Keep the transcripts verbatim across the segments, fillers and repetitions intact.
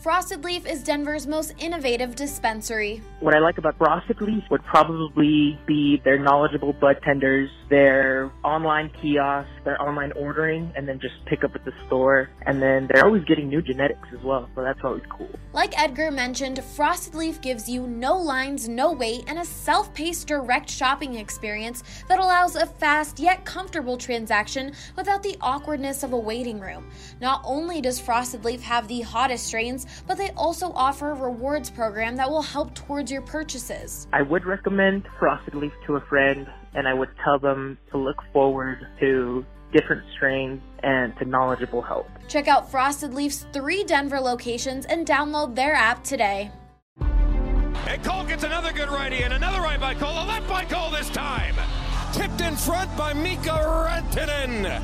Frosted Leaf is Denver's most innovative dispensary. What I like about Frosted Leaf would probably be their knowledgeable bud tenders, their online kiosks, their online ordering, and then just pick up at the store. And then they're always getting new genetics as well, so that's always cool. Like Edgar mentioned, Frosted Leaf gives you no lines, no wait, and a self-paced direct shopping experience that allows a fast yet comfortable transaction without the awkwardness of a waiting room. Not only does Frosted Leaf have the hottest strains, but they also offer a rewards program that will help towards your purchases. I would recommend Frosted Leaf to a friend, and I would tell them to look forward to different strains and to knowledgeable help. Check out Frosted Leaf's three Denver locations and download their app today. And Cole gets another good righty and another right by Cole, a left by Cole this time. Tipped in front by Mika Rantanen.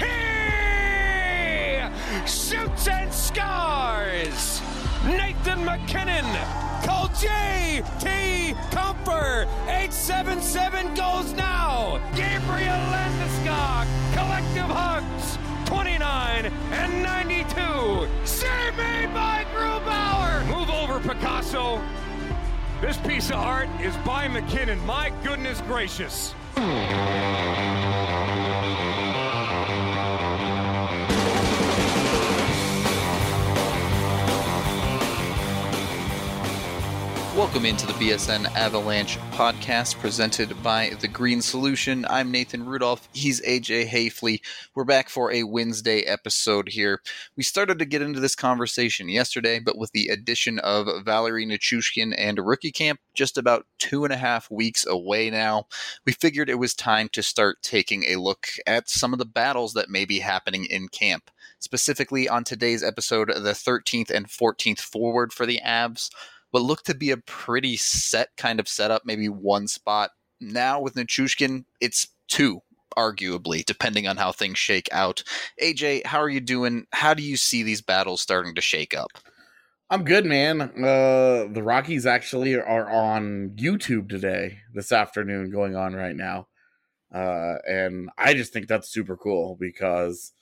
He shoots and scores. Nathan MacKinnon. Call J T Comfer. eight seven seven goes now. Gabriel Landeskog. Collective hugs. twenty-nine and ninety-two. Save made by Grubauer. Move over, Picasso. This piece of art is by McKinnon. My goodness gracious. Welcome into the B S N Avalanche podcast presented by The Green Solution. I'm Nathan Rudolph. He's A J Hayfley. We're back for a Wednesday episode here. We started to get into this conversation yesterday, but with the addition of Valeri Nichushkin and Rookie Camp just about two and a half weeks away now, we figured it was time to start taking a look at some of the battles that may be happening in camp. Specifically on today's episode, the thirteenth and fourteenth forward for the Avs. What looked to be a pretty set kind of setup, maybe one spot. Now with Nichushkin, it's two, arguably, depending on how things shake out. A J, how are you doing? How do you see these battles starting to shake up? I'm good, man. Uh, the Rockies actually are on YouTube today, this afternoon, going on right now. Uh, and I just think that's super cool because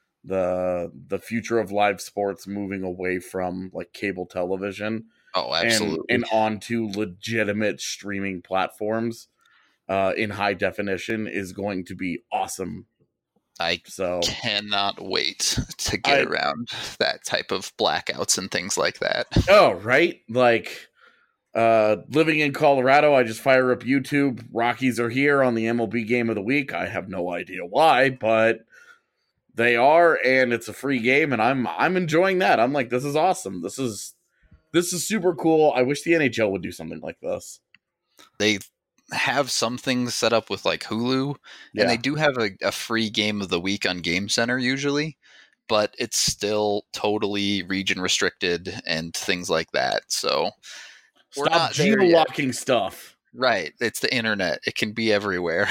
the the future of live sports moving away from like cable television. Oh, absolutely. And, and onto legitimate streaming platforms uh, in high definition is going to be awesome. I so, cannot wait to get I, around that type of blackouts and things like that. Oh, right? Like, uh, living in Colorado, I just fire up YouTube. Rockies are here on the M L B Game of the Week. I have no idea why, but they are, and it's a free game, and I'm I'm enjoying that. I'm like, this is awesome. This is... This is super cool. I wish the N H L would do something like this. They have some things set up with like Hulu, yeah. and they do have a, a free game of the week on Game Center usually, but it's still totally region restricted and things like that. So we're Stop not geo-locking stuff. Right. It's the internet. It can be everywhere.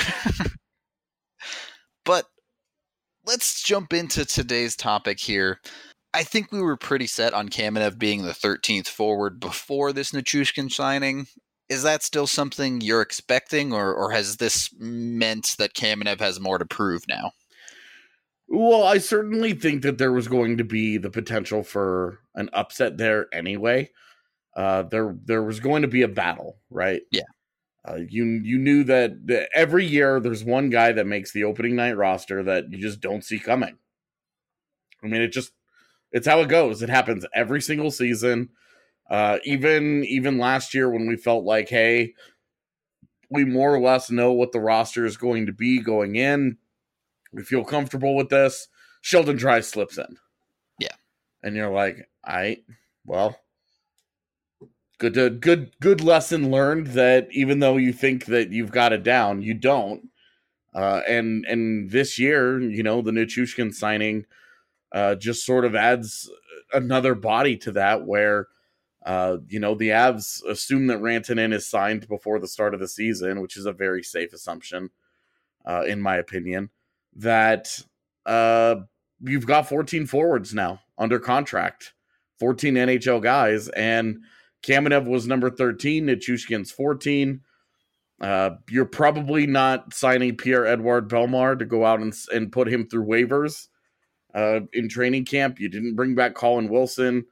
But let's jump into today's topic here. I think we were pretty set on Kamenev being the thirteenth forward before this Nichushkin signing. Is that still something you're expecting, or, or has this meant that Kamenev has more to prove now? Well, I certainly think that there was going to be the potential for an upset there anyway. Uh, there there was going to be a battle, right? Yeah. Uh, you you knew that, that every year there's one guy that makes the opening night roster that you just don't see coming. I mean, it just... It's how it goes. It happens every single season. Uh, even even last year when we felt like, hey, we more or less know what the roster is going to be going in. We feel comfortable with this. Sheldon Dries slips in. Yeah. And you're like, all right, well, good to, good good lesson learned that even though you think that you've got it down, you don't. Uh, and and this year, you know, the Nichushkin signing Uh, just sort of adds another body to that where, uh, you know, the Avs assume that Rantanen is signed before the start of the season, which is a very safe assumption, uh, in my opinion, that uh, you've got fourteen forwards now under contract, fourteen N H L guys, and Kamenev was number thirteen, Nichushkin's fourteen. Uh, you're probably not signing Pierre-Edouard Bellemare to go out and, and put him through waivers. Uh, in training camp, you didn't bring back Colin Wilson.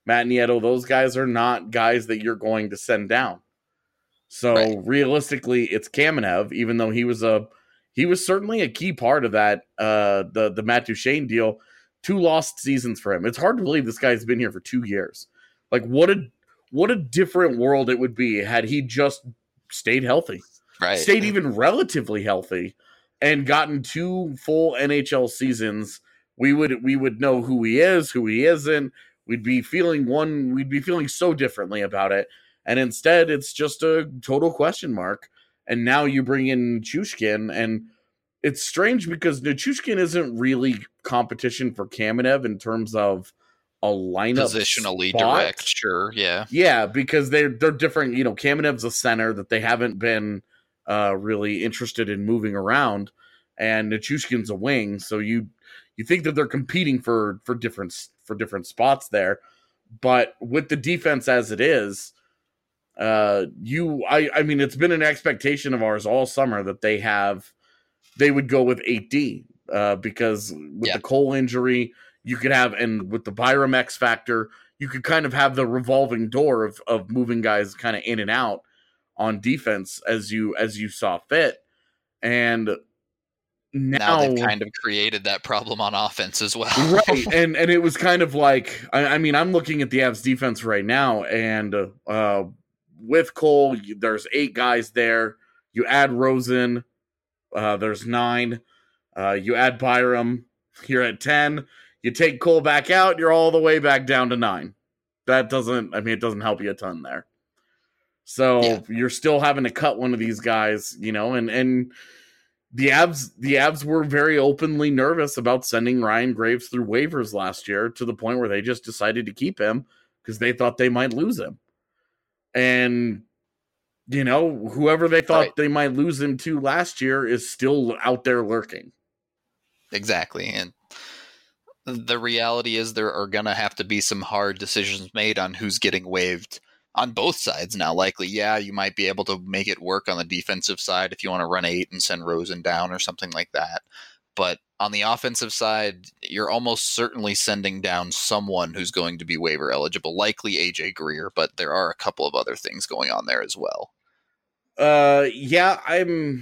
Matt Nieto, those guys are not guys that you're going to send down. So Right. realistically, it's Kamenev, even though he was a he was certainly a key part of that uh, the the Matt Duchene deal. Two lost seasons for him. It's hard to believe this guy's been here for two years. Like what a what a different world it would be had he just stayed healthy, Right. stayed even relatively healthy, and gotten two full N H L seasons. We would we would know who he is, who he isn't. We'd be feeling one. We'd be feeling so differently about it. And instead, it's just a total question mark. And now you bring in Nichushkin, and it's strange because Nichushkin isn't really competition for Kamenev in terms of a lineup Positionally spot. direct, sure, yeah. Yeah, because they're they're different. You know, Kamenev's a center that they haven't been uh, really interested in moving around, and Nichushkin's a wing. So you you think that they're competing for for different for different spots there, but with the defense as it is. Uh, you, I, I mean, it's been an expectation of ours all summer that they have, they would go with eight D, uh, because with Yeah. the Cole injury, you could have, and with the Byram X factor, you could kind of have the revolving door of, of moving guys kind of in and out on defense as you, as you saw fit. And now, Now they've kind of created that problem on offense as well. right. And, and it was kind of like, I, I mean, I'm looking at the Avs defense right now, and, uh, with Cole, there's eight guys there. You add Rosen, uh, there's nine. Uh, you add Byram, you're at ten. You take Cole back out, you're all the way back down to nine. That doesn't, I mean, it doesn't help you a ton there. So Yeah. you're still having to cut one of these guys, you know, and and the Avs, the Avs were very openly nervous about sending Ryan Graves through waivers last year to the point where they just decided to keep him because they thought they might lose him. And, you know, whoever they thought Right. they might lose him to last year is still out there lurking. Exactly. And the reality is there are going to have to be some hard decisions made on who's getting waived on both sides now. Likely, yeah, you might be able to make it work on the defensive side if you want to run eight and send Rosen down or something like that. But on the offensive side, you're almost certainly sending down someone who's going to be waiver eligible, likely A J Greer, but there are a couple of other things going on there as well. Uh, yeah, I'm.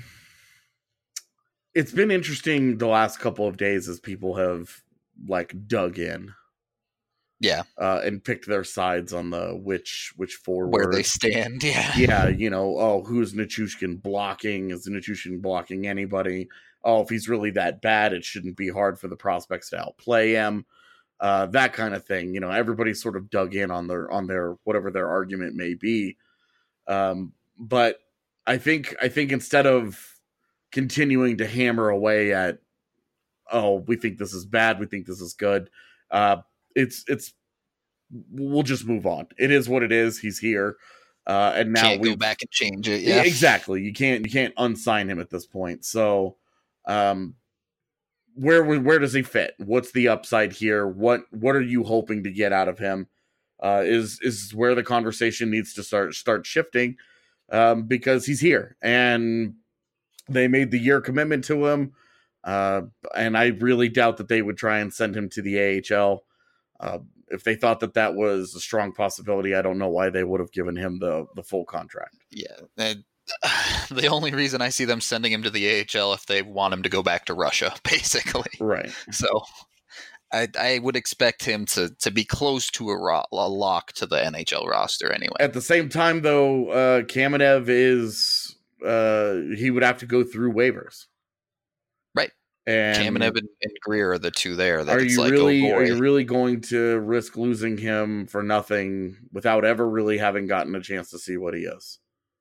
It's been interesting the last couple of days as people have like dug in, Yeah, uh, and picked their sides on the which which forward where they stand. Yeah, yeah, you know, oh, who's Nichushkin blocking? Is Nichushkin blocking anybody? Oh, if he's really that bad, it shouldn't be hard for the prospects to outplay him. Uh, that kind of thing. You know, everybody sort of dug in on their on their whatever their argument may be. Um, but I think I think instead of continuing to hammer away at, oh, we think this is bad, we think this is good, uh, it's it's we'll just move on. It is what it is. He's here. Uh, and now can't we go back and change it. Yeah, exactly. You can't you can't unsign him at this point. So, um, where where does he fit? What's the upside here? What what are you hoping to get out of him? Uh, is is where the conversation needs to start start shifting, um, because he's here and they made the year commitment to him, uh, and I really doubt that they would try and send him to the A H L. Uh, if they thought that that was a strong possibility, I don't know why they would have given him the the full contract. Yeah. And, uh, the only reason I see them sending him to the A H L if they want him to go back to Russia, basically. Right. So I, I would expect him to, to be close to a, ro- a lock to the N H L roster anyway. At the same time, though, uh, Kamenev is uh, he would have to go through waivers. Right. And Kamenev and, and Greer are the two there. That are it's you like, really oh are boy. you really going to risk losing him for nothing without ever really having gotten a chance to see what he is?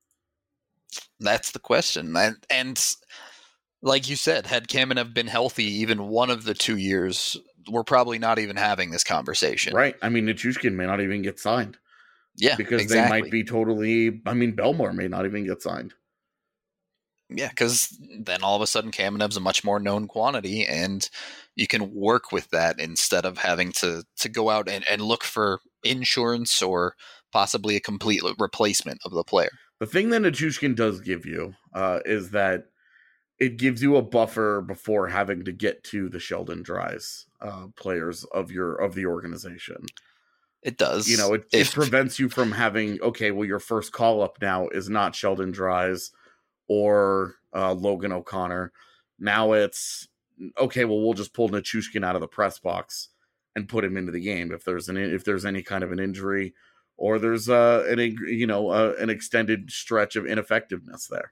That's the question. And, and like you said, had Kamenev been healthy even one of the two years, we're probably not even having this conversation. Right. I mean, Nichushkin may not even get signed. Yeah, Because exactly. they might be totally, I mean, Belmore may not even get signed. Yeah, because then all of a sudden Kamenev's a much more known quantity, and you can work with that instead of having to, to go out and, and look for insurance or possibly a complete replacement of the player. The thing that Nichushkin does give you uh, is that it gives you a buffer before having to get to the Sheldon Dries uh, players of your of the organization. It does. You know, it, if, it prevents you from having, okay, well, your first call up now is not Sheldon Dries or uh, Logan O'Connor. Now it's, okay, well, we'll just pull Nichushkin out of the press box and put him into the game if there's an if there's any kind of an injury or there's uh, an you know uh, an extended stretch of ineffectiveness there.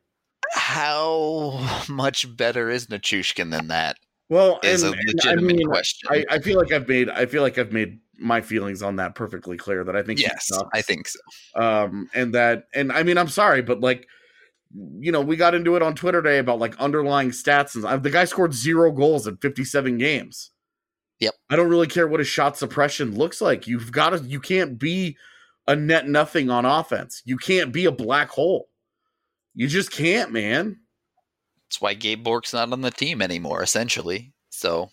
How much better is Nichushkin than that? Well, is and, a and legitimate I mean, question. I, I feel like I've made I feel like I've made my feelings on that perfectly clear. That I think yes, I think so. Um, and that, and I mean, I'm sorry, but like, you know, we got into it on Twitter today about like underlying stats, and the guy scored zero goals in fifty-seven games. Yep. I don't really care what his shot suppression looks like. You've got to, you can't be a net nothing on offense. You can't be a black hole. You just can't, man. That's why Gabe Bork's not on the team anymore, essentially. So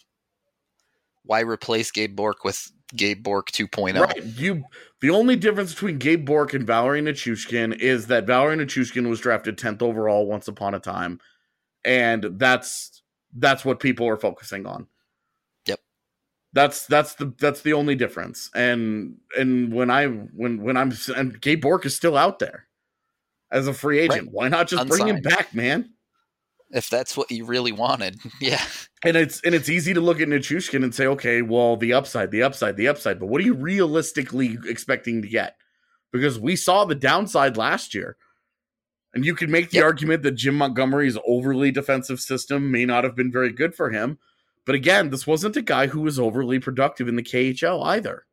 why replace Gabe Bork with Gabe Bork two point oh? Right. You, the only difference between Gabe Bork and Valery Nichushkin is that Valery Nichushkin was drafted tenth overall once upon a time. And that's, that's what people are focusing on. Yep. That's, that's the, that's the only difference. And, and when I, when, when I'm, and Gabe Bork is still out there as a free agent. Right. Why not just Unsigned. Bring him back, man? If that's what you really wanted. Yeah. And it's and it's easy to look at Nichushkin and say, okay, well, the upside, the upside, the upside. But what are you realistically expecting to get? Because we saw the downside last year. And you can make the yep. argument that Jim Montgomery's overly defensive system may not have been very good for him. But again, this wasn't a guy who was overly productive in the K H L either.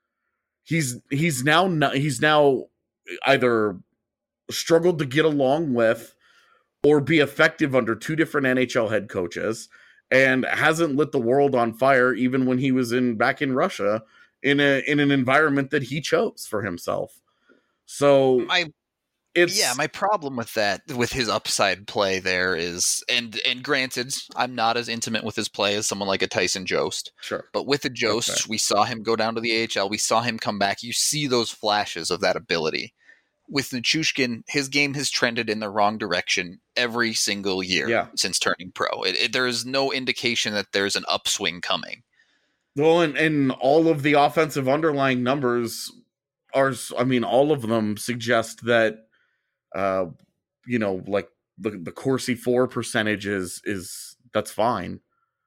He's he's now he's now either struggled to get along with or be effective under two different N H L head coaches, and hasn't lit the world on fire even when he was in back in Russia in a in an environment that he chose for himself. So my it's yeah, my problem with that, with his upside play there is, and and granted, I'm not as intimate with his play as someone like a Tyson Jost. Sure. But with the Jost, okay. we saw him go down to the A H L, we saw him come back. You see those flashes of that ability. With Nichushkin, his game has trended in the wrong direction every single year yeah. since turning pro. It, it, there is no indication that there's an upswing coming. Well, and, and all of the offensive underlying numbers are, I mean, all of them suggest that, uh, you know, like the, the Corsi four percentage is, is that's fine.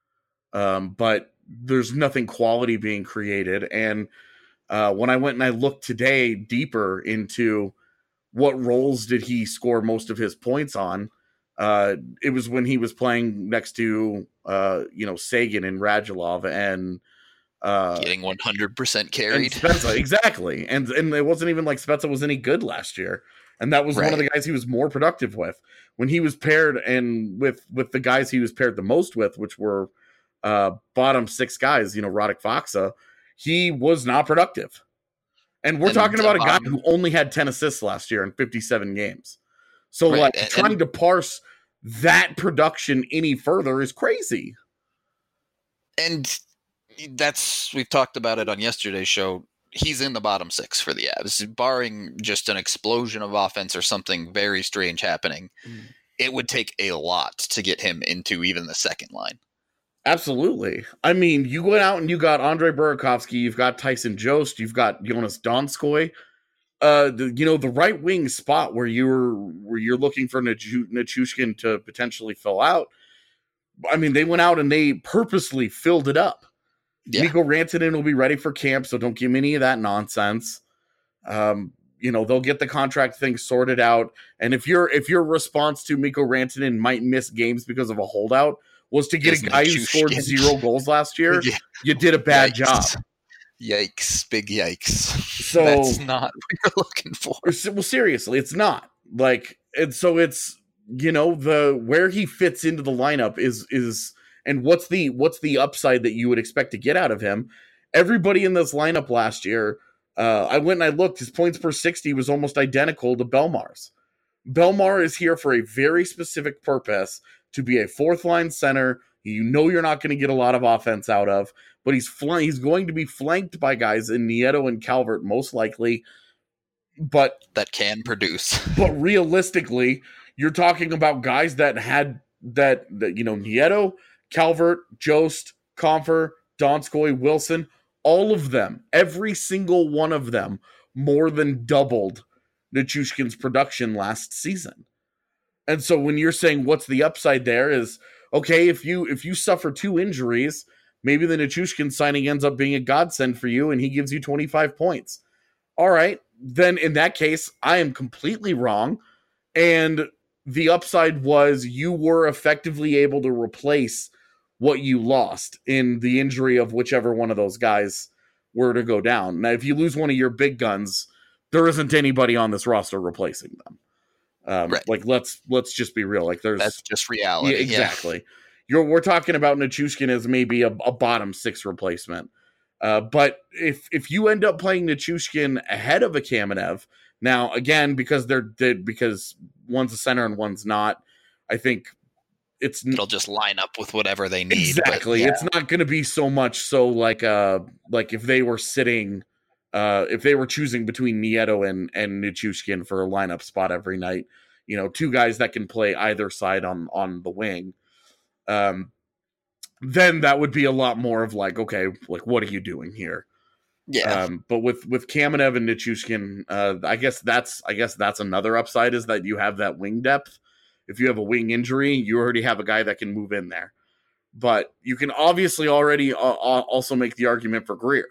Um, but there's nothing quality being created. And uh, when I went and I looked today deeper into what roles did he score most of his points on? Uh, it was when he was playing next to, uh, you know, Sagan and Radulov and uh, getting one hundred percent carried. And Spezza, exactly. And and it wasn't even like Spezza was any good last year. And that was right. one of the guys he was more productive with. When he was paired and with with the guys he was paired the most with, which were uh, bottom six guys, you know, Radek Faksa, he was not productive. And we're and, talking about um, a guy who only had ten assists last year in fifty-seven games. So, right, like, and, trying and, to parse that production any further is crazy. And that's, we've talked about it on yesterday's show. He's in the bottom six for the Avs. Barring just an explosion of offense or something very strange happening, mm. it would take a lot to get him into even the second line. Absolutely. I mean, you went out and you got Andre Burakovsky, you've got Tyson Jost, you've got Jonas Donskoy. Uh, the, you know, the right wing spot where you're where you're looking for Nichushkin to potentially fill out. I mean, they went out and they purposely filled it up. Yeah. Mikko Rantanen will be ready for camp, so don't give me any of that nonsense. Um, you know, they'll get the contract thing sorted out. And if your if your response to Mikko Rantanen might miss games because of a holdout was to get Isn't a guy who scored skin. zero goals last year, yeah. you did a bad Yikes. job. Yikes. Big yikes. So that's not what you're looking for. Well, seriously, it's not. Like, and so it's, you know, the where he fits into the lineup is is and what's the what's the upside that you would expect to get out of him. Everybody in this lineup last year, uh, I went and I looked, his points per sixty was almost identical to Belmar's. Belmar is here for a very specific purpose, to be a fourth line center. You know you're not going to get a lot of offense out of, but he's fl- he's going to be flanked by guys in Nieto and Calvert most likely, but that can produce. But realistically, you're talking about guys that had that, that you know, Nieto, Calvert, Jost, Compher, Donskoy, Wilson, all of them, every single one of them, more than doubled Nichushkin's production last season. And so when you're saying what's the upside there is, okay, if you if you suffer two injuries, maybe the Nichushkin signing ends up being a godsend for you and he gives you twenty-five points. All right, then in that case, I am completely wrong. And the upside was you were effectively able to replace what you lost in the injury of whichever one of those guys were to go down. Now, if you lose one of your big guns, there isn't anybody on this roster replacing them. Um, right. Like, let's let's just be real. Like, there's that's just reality. Yeah, exactly. Yeah. You're we're talking about Nichushkin as maybe a, a bottom six replacement. Uh, but if if you end up playing Nichushkin ahead of a Kamenev, now again because they're, they're because one's a center and one's not, I think it's it'll just line up with whatever they need. Exactly. But, yeah. It's not going to be so much so like uh like if they were sitting. Uh, if they were choosing between Nieto and, and Nichushkin for a lineup spot every night, you know, two guys that can play either side on, on the wing, um, then that would be a lot more of like, okay, like, what are you doing here? Yeah. Um, but with, with Kamenev and Nichushkin, uh, I guess that's, I guess that's another upside is that you have that wing depth. If you have a wing injury, you already have a guy that can move in there. But you can obviously already uh, also make the argument for Greer.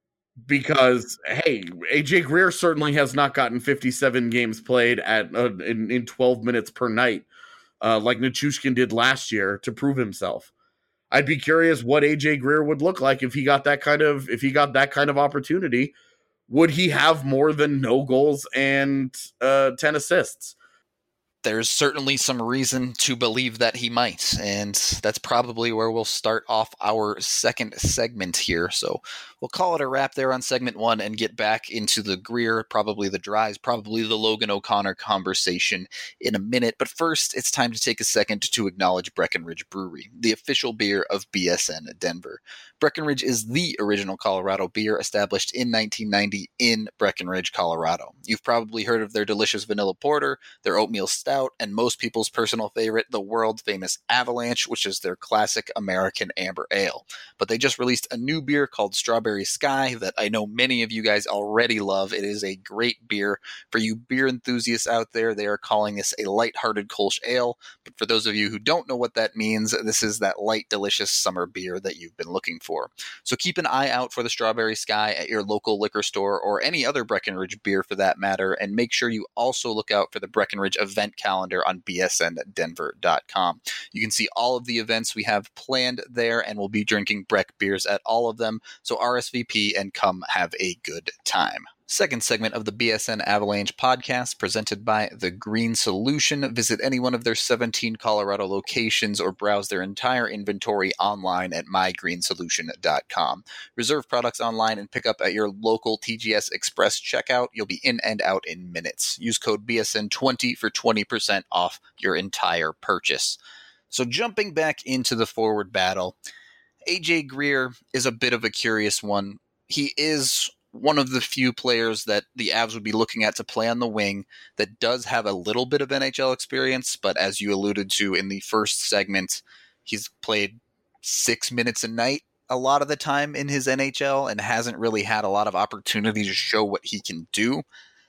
Because, hey, A J Greer certainly has not gotten fifty-seven games played at uh, in, in twelve minutes per night uh, like Nichushkin did last year to prove himself. I'd be curious what A J Greer would look like if he got that kind of if he got that kind of opportunity. Would he have more than no goals and uh, ten assists? There's certainly some reason to believe that he might, and that's probably where we'll start off our second segment here. So we'll call it a wrap there on segment one and get back into the Greer, probably the Dries, probably the Logan O'Connor conversation in a minute. But first, it's time to take a second to acknowledge Breckenridge Brewery, the official beer of B S N Denver. Breckenridge is the original Colorado beer established in nineteen ninety in Breckenridge, Colorado. You've probably heard of their delicious vanilla porter, their oatmeal stout, and most people's personal favorite, the world-famous Avalanche, which is their classic American amber ale. But they just released a new beer called Strawberry Sky that I know many of you guys already love. It is a great beer. For you beer enthusiasts out there, they are calling this a lighthearted Kolsch ale. But for those of you who don't know what that means, this is that light, delicious summer beer that you've been looking for. So keep an eye out for the Strawberry Sky at your local liquor store or any other Breckenridge beer for that matter. And make sure you also look out for the Breckenridge event calendar on B S N denver dot com. You can see all of the events we have planned there, and we'll be drinking Breck beers at all of them. So R S V P and come have a good time. Second segment of the B S N Avalanche podcast presented by The Green Solution. Visit any one of their seventeen Colorado locations or browse their entire inventory online at my green solution dot com. Reserve products online and pick up at your local T G S Express checkout. You'll be in and out in minutes. Use code B S N twenty for twenty percent off your entire purchase. So jumping back into the forward battle, A J Greer is a bit of a curious one. He is one of the few players that the Avs would be looking at to play on the wing that does have a little bit of N H L experience, but as you alluded to in the first segment, he's played six minutes a night a lot of the time in his N H L and hasn't really had a lot of opportunity to show what he can do.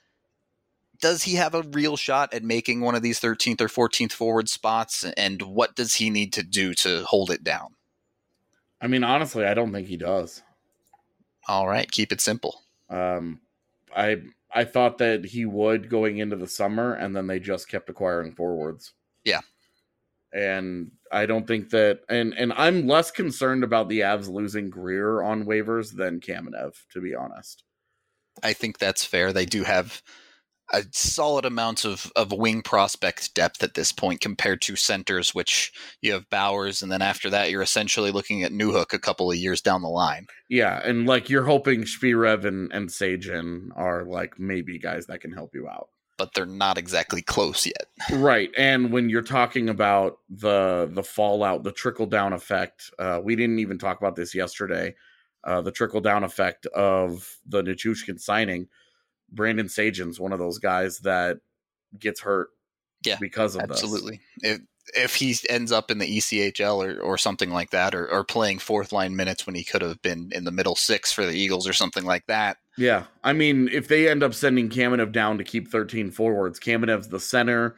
Does he have a real shot at making one of these thirteenth or fourteenth forward spots, and what does he need to do to hold it down? I mean, honestly, I don't think he does. All right, keep it simple. Um, I I thought that he would going into the summer, and then they just kept acquiring forwards. Yeah. And I don't think that, and, and I'm less concerned about the Avs losing Greer on waivers than Kamenev, to be honest. I think that's fair. They do have a solid amount of, of wing prospect depth at this point compared to centers, which you have Bowers, and then after that, you're essentially looking at Newhook a couple of years down the line. Yeah, and like you're hoping Spirev and, and Sajin are like maybe guys that can help you out. But they're not exactly close yet. Right, and when you're talking about the the fallout, the trickle-down effect, uh, we didn't even talk about this yesterday, uh, the trickle-down effect of the Nichushkin signing. Brandon Sajin's one of those guys that gets hurt yeah, because of absolutely. this. It, if he ends up in the E C H L or, or something like that, or, or playing fourth line minutes when he could have been in the middle six for the Eagles or something like that. Yeah, I mean, if they end up sending Kamenev down to keep thirteen forwards, Kamenev's the center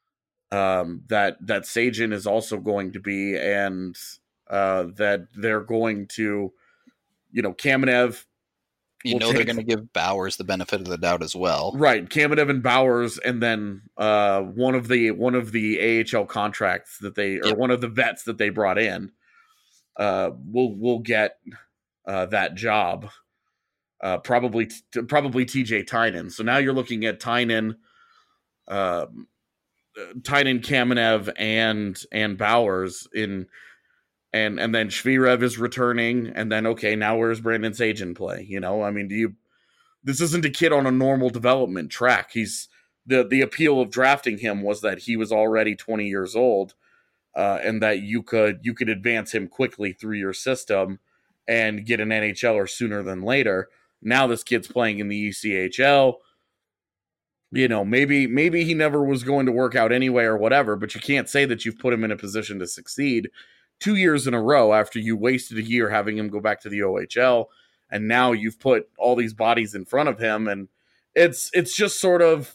um, that that Sajin is also going to be, and uh, that they're going to, you know, Kamenev. You know, take, they're going to give Bowers the benefit of the doubt as well, right? Kamenev and Bowers, and then uh, one of the one of the A H L contracts that they, or yep. one of the vets that they brought in, uh, will will get uh, that job. Uh, probably t- probably T J Tynan. So now you're looking at Tynan, uh, Tynan, Kamenev, and and Bowers in, and and then Shvirev is returning, and then okay, now where's Brandon Sajin play? You know, I mean, do you? This isn't a kid on a normal development track. He's the the appeal of drafting him was that he was already twenty years old, uh, and that you could you could advance him quickly through your system and get an N H L or sooner than later. Now this kid's playing in the E C H L. You know, maybe maybe he never was going to work out anyway or whatever, but you can't say that you've put him in a position to succeed two years in a row after you wasted a year having him go back to the O H L, and now you've put all these bodies in front of him, and it's it's just sort of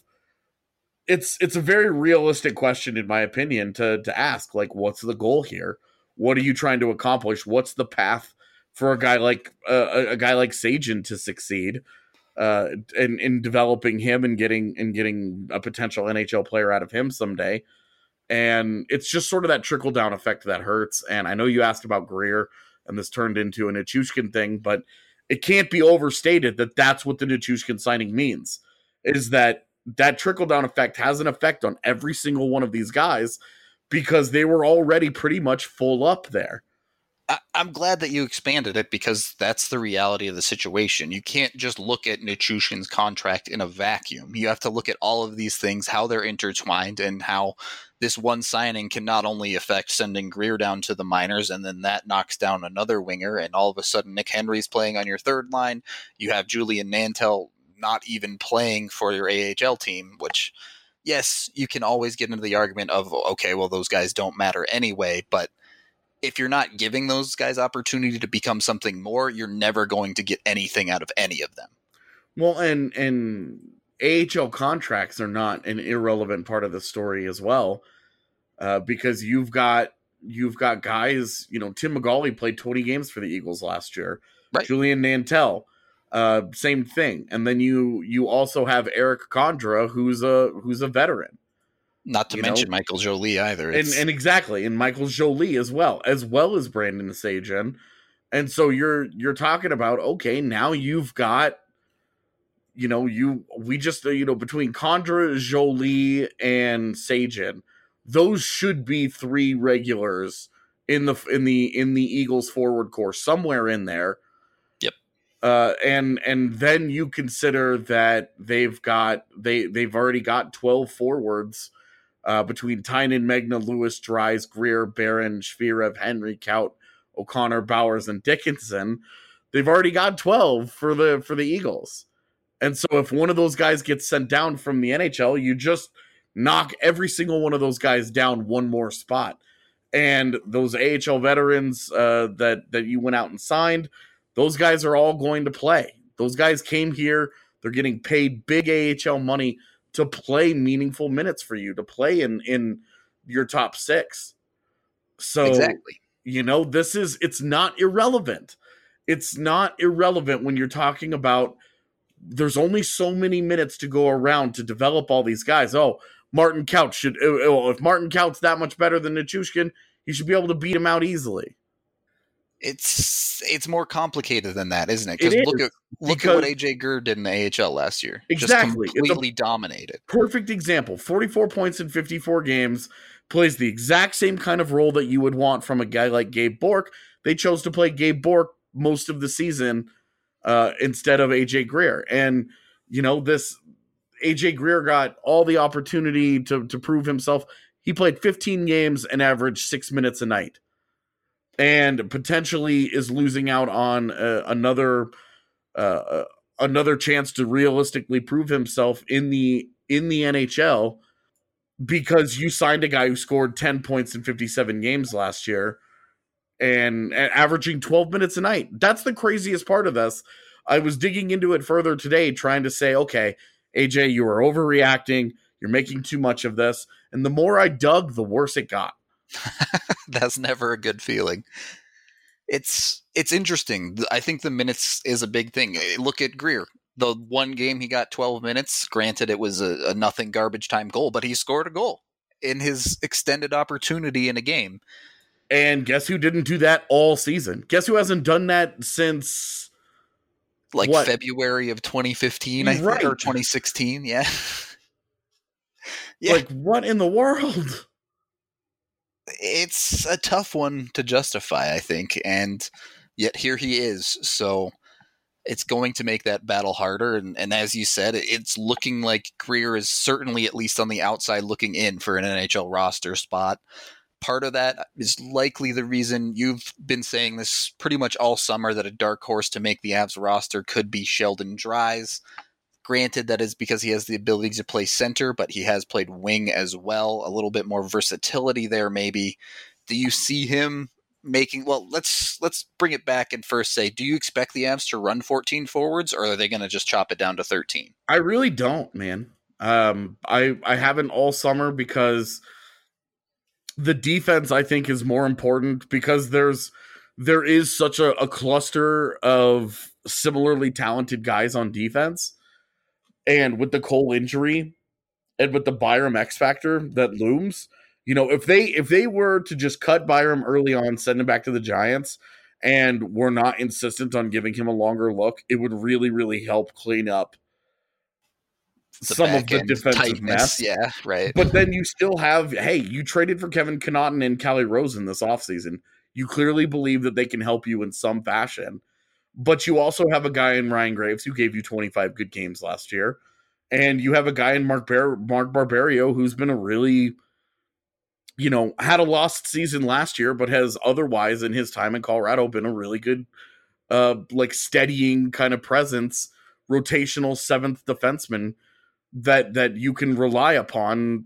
it's it's a very realistic question, in my opinion, to to ask, like, what's the goal here? What are you trying to accomplish? What's the path for a guy like uh, a, a guy like Sajin to succeed uh, in, in developing him and getting and getting a potential N H L player out of him someday? And it's just sort of that trickle down effect that hurts. And I know you asked about Greer, and this turned into a Nichushkin thing, but it can't be overstated that that's what the Nichushkin signing means, is that that trickle down effect has an effect on every single one of these guys because they were already pretty much full up there. I'm glad that you expanded it because that's the reality of the situation. You can't just look at Nichushkin's contract in a vacuum. You have to look at all of these things, how they're intertwined, and how this one signing can not only affect sending Greer down to the minors, and then that knocks down another winger, and all of a sudden Nick Henry's playing on your third line. You have Julian Nantel not even playing for your A H L team, which, yes, you can always get into the argument of, okay, well, those guys don't matter anyway, but if you're not giving those guys opportunity to become something more, you're never going to get anything out of any of them. Well, and and A H L contracts are not an irrelevant part of the story as well, uh, because you've got you've got guys. You know, Tim McGauley played twenty games for the Eagles last year. Right. Julian Nantel, uh, same thing. And then you you also have Eric Condra, who's a who's a veteran. Not to you mention know? Michael Jolie either. And, and exactly, and Michael Jolie as well, as well as Brandon Sajin. And so you're you're talking about, okay, now you've got, you know, you we just, you know, between Condra, Jolie, and Sajin, those should be three regulars in the in the in the Eagles forward core, somewhere in there. Yep. Uh, and and then you consider that they've got they they've already got twelve forwards. Uh, between Tynan, Megna, Lewis, Dries, Greer, Barron, Shvirev, Henry, Kaut, O'Connor, Bowers, and Dickinson, they've already got twelve for the for the Eagles. And so if one of those guys gets sent down from the N H L, you just knock every single one of those guys down one more spot. And those A H L veterans uh, that, that you went out and signed, those guys are all going to play. Those guys came here. They're getting paid big A H L money to play meaningful minutes for you, to play in, in your top six. So, exactly. you know, this is, it's not irrelevant. It's not irrelevant when you're talking about there's only so many minutes to go around to develop all these guys. Oh, Martin Kaut should, if Martin Kaut's that much better than Nichushkin, he should be able to beat him out easily. It's it's more complicated than that, isn't it? Because look at look because, at what A J Gurr did in the A H L last year. Exactly, just completely it's a dominated. Perfect example: forty-four points in fifty-four games, plays the exact same kind of role that you would want from a guy like Gabe Bourque. They chose to play Gabe Bourque most of the season uh, instead of A J Greer, and you know this A J Greer got all the opportunity to to prove himself. He played fifteen games and averaged six minutes a night. And potentially is losing out on uh, another uh, another chance to realistically prove himself in the in the N H L because you signed a guy who scored ten points in fifty-seven games last year and, and averaging twelve minutes a night. That's the craziest part of this. I was digging into it further today, trying to say, okay, A J, you are overreacting. You're making too much of this. And the more I dug, the worse it got. That's never a good feeling. It's it's interesting. I think the minutes is a big thing. Look at Greer. The one game he got twelve minutes. Granted, it was a, a nothing garbage time goal, but he scored a goal in his extended opportunity in a game. And guess who didn't do that all season? Guess who hasn't done that since like what? February of twenty fifteen, I right. think, or twenty sixteen. Yeah. yeah. Like, what in the world? It's a tough one to justify, I think, and yet here he is. So it's going to make that battle harder. And, and as you said, it's looking like Greer is certainly at least on the outside looking in for an N H L roster spot. Part of that is likely the reason you've been saying this pretty much all summer, that a dark horse to make the Avs roster could be Sheldon Dries. Granted, that is because he has the ability to play center, but he has played wing as well. A little bit more versatility there, maybe. Do you see him making? Well, let's let's bring it back and first say, do you expect the Avs to run fourteen forwards, or are they going to just chop it down to thirteen? I really don't, man. Um, I I haven't all summer because the defense, I think, is more important because there's there is such a, a cluster of similarly talented guys on defense. And with the Cole injury and with the Byram X factor that looms, you know, if they if they were to just cut Byram early on, send him back to the Giants, and were not insistent on giving him a longer look, it would really, really help clean up the some of the defensive tightness. mess. Yeah, right. But then you still have, hey, you traded for Kevin Connaughton and Callie Rosen this offseason. You clearly believe that they can help you in some fashion. But you also have a guy in Ryan Graves who gave you twenty-five good games last year. And you have a guy in Mark, Bar- Mark Barberio who's been a really, you know, had a lost season last year, but has otherwise in his time in Colorado been a really good, uh, like steadying kind of presence, rotational seventh defenseman that that you can rely upon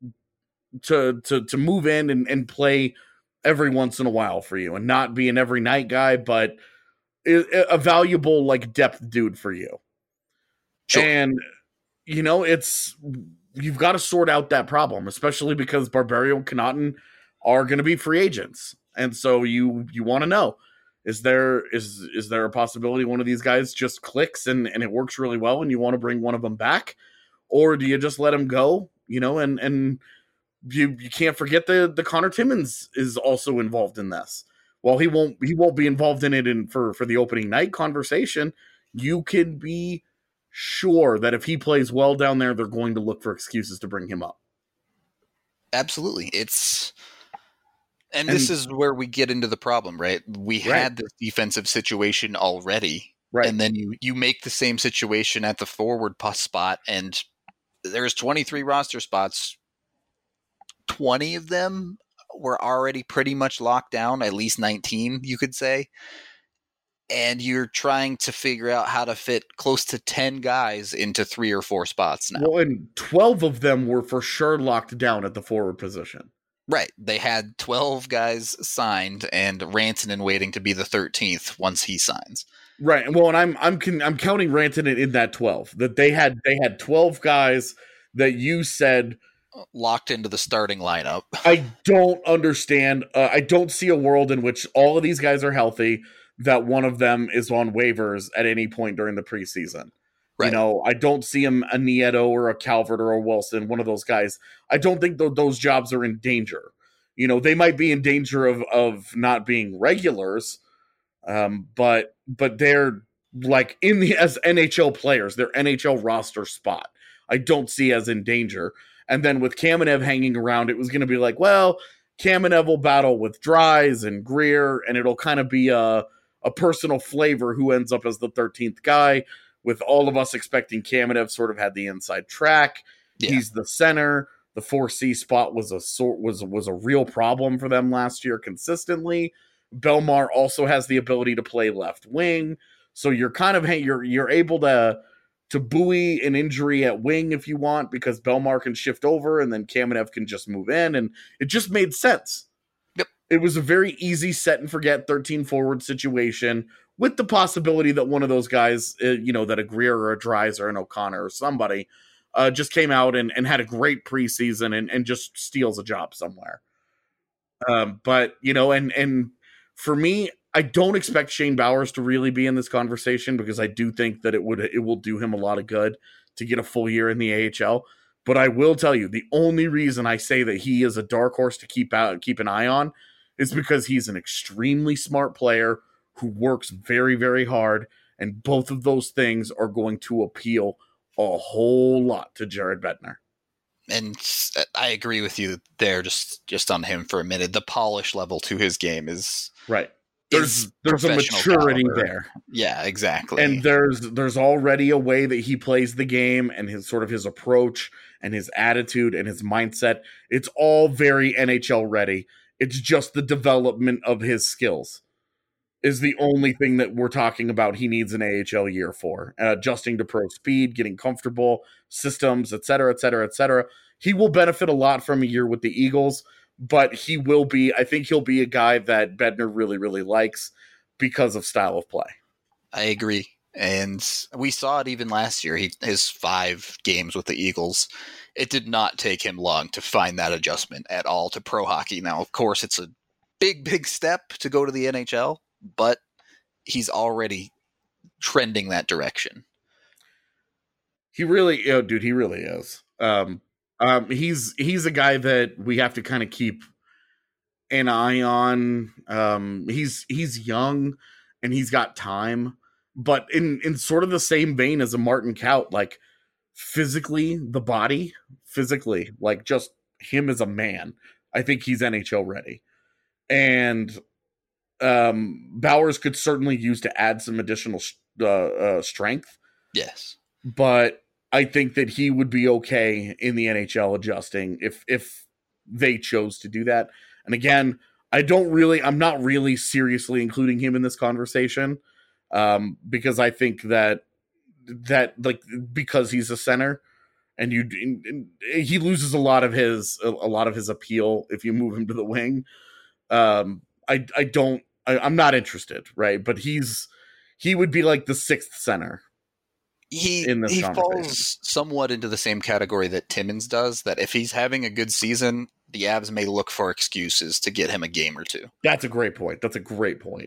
to to to move in and, and play every once in a while for you and not be an every night guy, but a valuable like depth dude for you. Sure. And you know, it's you've got to sort out that problem, especially because Barberio and Connaughton are going to be free agents. And so you you want to know, is there is is there a possibility one of these guys just clicks and, and it works really well and you want to bring one of them back? Or do you just let him go, you know, and and you you can't forget the the Connor Timmins is also involved in this. While he won't he won't be involved in it in for, for the opening night conversation, you can be sure that if he plays well down there, they're going to look for excuses to bring him up. Absolutely. It's and, And- this is where we get into the problem, right? We Right. had this defensive situation already. Right. And then you you make the same situation at the forward pos spot, and there's twenty-three roster spots. twenty of them were already pretty much locked down, at least nineteen, you could say. And you're trying to figure out how to fit close to ten guys into three or four spots now. Well, and twelve of them were for sure locked down at the forward position. Right. They had twelve guys signed and Rantanen waiting to be the thirteenth once he signs. Right. Well, and I'm I'm con- I'm counting Rantanen in that twelve. That they had they had twelve guys that you said Locked into the starting lineup. I don't understand. Uh, I don't see a world in which all of these guys are healthy, that one of them is on waivers at any point during the preseason. Right. You know, I don't see him a Nieto or a Calvert or a Wilson, one of those guys. I don't think th- those jobs are in danger. You know, they might be in danger of of not being regulars, um, but but they're like in the as N H L players, their N H L roster spot. I don't see as in danger. And then with Kamenev hanging around, it was going to be like, well, Kamenev will battle with Dries and Greer, and it'll kind of be a, a personal flavor who ends up as the thirteenth guy, with all of us expecting Kamenev sort of had the inside track. Yeah. He's the center. The four C spot was a sort was was a real problem for them last year consistently. Belmar also has the ability to play left wing, so you're kind of you're you're able to to buoy an injury at wing if you want, because Belmar can shift over and then Kamenev can just move in, and it just made sense. Yep. It was a very easy set and forget thirteen forward situation with the possibility that one of those guys, uh, you know, that a Greer or a Dries or an O'Connor or somebody uh, just came out and, and had a great preseason and, and just steals a job somewhere. Um, but, you know, and and for me, I don't expect Shane Bowers to really be in this conversation, because I do think that it would it will do him a lot of good to get a full year in the A H L. But I will tell you, the only reason I say that he is a dark horse to keep out keep an eye on is because he's an extremely smart player who works very, very hard, and both of those things are going to appeal a whole lot to Jared Bednar. And I agree with you there, just just on him for a minute. The polish level to his game is right. There's is there's a maturity caliber. there. Yeah, exactly. And there's there's already a way that he plays the game, and his sort of his approach and his attitude and his mindset. It's all very N H L ready. It's just the development of his skills is the only thing that we're talking about he needs an A H L year for. Uh, adjusting to pro speed, getting comfortable, systems, et cetera, et cetera, et cetera. He will benefit a lot from a year with the Eagles, but he will be, I think he'll be a guy that Bednar really, really likes because of style of play. I agree. And we saw it even last year. He his five games with the Eagles. It did not take him long to find that adjustment at all to pro hockey. Now, of course, it's a big, big step to go to the N H L, but he's already trending that direction. He really, oh, dude, he really is. Um, um, he's he's a guy that we have to kind of keep an eye on. Um, he's he's young and he's got time, but in in sort of the same vein as a Martin Kaut, like physically, the body, physically, like just him as a man, I think he's N H L ready. And um, Bowers could certainly use to add some additional uh, uh, strength. Yes. But I think that he would be okay in the N H L adjusting if if they chose to do that. And again, I don't really, I'm not really seriously including him in this conversation um, because I think that that like because he's a center and you and he loses a lot of his a, a lot of his appeal if you move him to the wing. Um, I I don't I, I'm not interested, right? But he's he would be like the sixth center. He he falls somewhat into the same category that Timmins does, that if he's having a good season, the Avs may look for excuses to get him a game or two. That's a great point. That's a great point.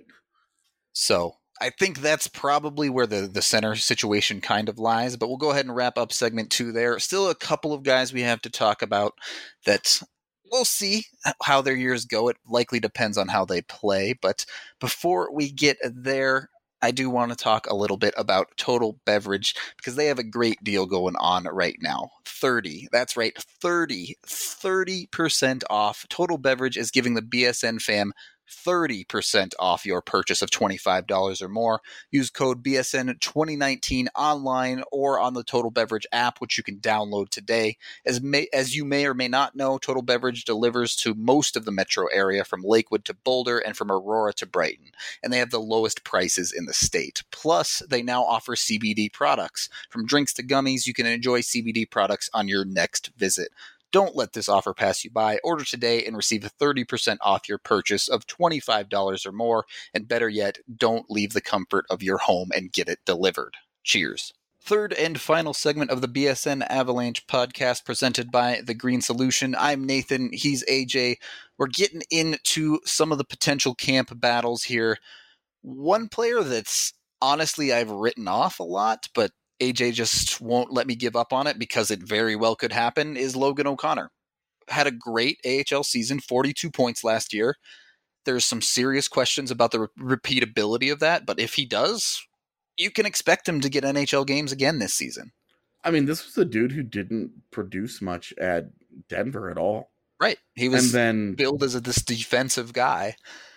So I think that's probably where the, the center situation kind of lies, but we'll go ahead and wrap up segment two there. Still a couple of guys we have to talk about that we'll see how their years go. It likely depends on how they play, but before we get there, I do want to talk a little bit about Total Beverage because they have a great deal going on right now. thirty, that's right, thirty, thirty percent off. Total Beverage is giving the B S N fam thirty percent off your purchase of twenty-five dollars or more. Use code B S N twenty nineteen online or on the Total Beverage app, which you can download today. As may, as you may or may not know, Total Beverage delivers to most of the metro area, from Lakewood to Boulder and from Aurora to Brighton, and they have the lowest prices in the state. Plus, they now offer C B D products. From drinks to gummies, you can enjoy C B D products on your next visit. Don't let this offer pass you by. Order today and receive thirty percent off your purchase of twenty-five dollars or more. And better yet, don't leave the comfort of your home and get it delivered. Cheers. Third and final segment of the B S N Avalanche podcast presented by The Green Solution. I'm Nathan. He's A J. We're getting into some of the potential camp battles here. One player that's honestly I've written off a lot, but A J just won't let me give up on it because it very well could happen, is Logan O'Connor. Had a great A H L season, forty-two points last year. There's some serious questions about the re- repeatability of that, but if he does, you can expect him to get N H L games again this season. I mean, this was a dude who didn't produce much at Denver at all. Right. He was and then, billed as a, this defensive guy.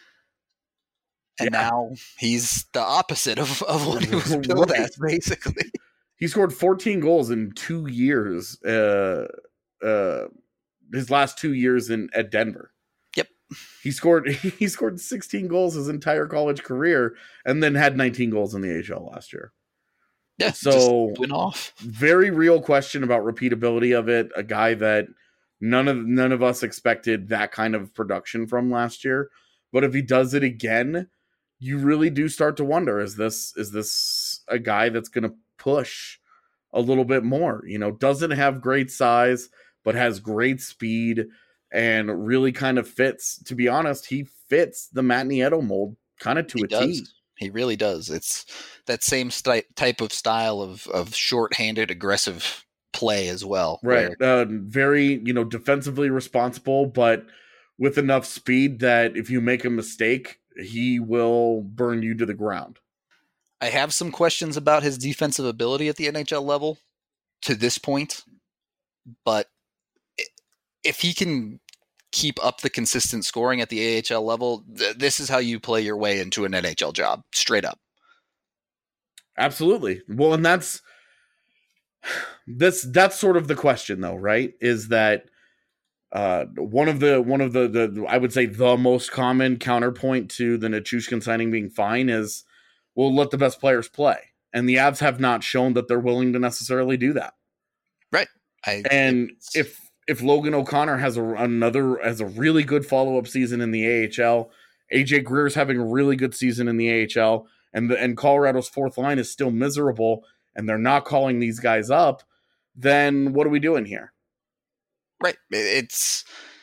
And yeah. now he's the opposite of, of what he was billed right. as, basically. He scored fourteen goals in two years, uh, uh, his last two years in at Denver. Yep. He scored he scored sixteen goals his entire college career and then had nineteen goals in the A H L last year. Yeah, so went off. Very real question about repeatability of it. A guy that none of none of us expected that kind of production from last year. But if he does it again, you really do start to wonder: is this is this a guy that's going to push a little bit more? You know, doesn't have great size, but has great speed and really kind of fits. To be honest, he fits the Matt Nieto mold kind of to he a does. T. He really does. It's that same st- type of style of of short-handed, aggressive play as well. Right. Where, uh, very, you know, defensively responsible, but with enough speed that if you make a mistake, he will burn you to the ground. I have some questions about his defensive ability at the N H L level to this point, but if he can keep up the consistent scoring at the A H L level, th- this is how you play your way into an N H L job, straight up. Absolutely. Well, and that's this that's sort of the question, though, right? Is that uh, one of the one of the, the I would say the most common counterpoint to the Nichushkin signing being fine is, well, let the best players play, and the Avs have not shown that they're willing to necessarily do that. Right. I, and if if Logan O'Connor has a another has a really good follow up season in the A H L, A J Greer's having a really good season in the A H L, and the, and Colorado's fourth line is still miserable, and they're not calling these guys up, then what are we doing here? Right. It's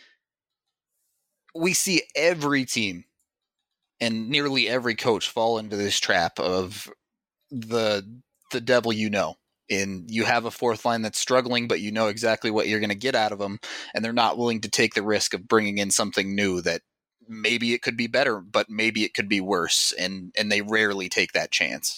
we see every team and nearly every coach fall into this trap of the the devil you know. In you have a fourth line that's struggling, but you know exactly what you're going to get out of them, and they're not willing to take the risk of bringing in something new that maybe it could be better, but maybe it could be worse, and and they rarely take that chance.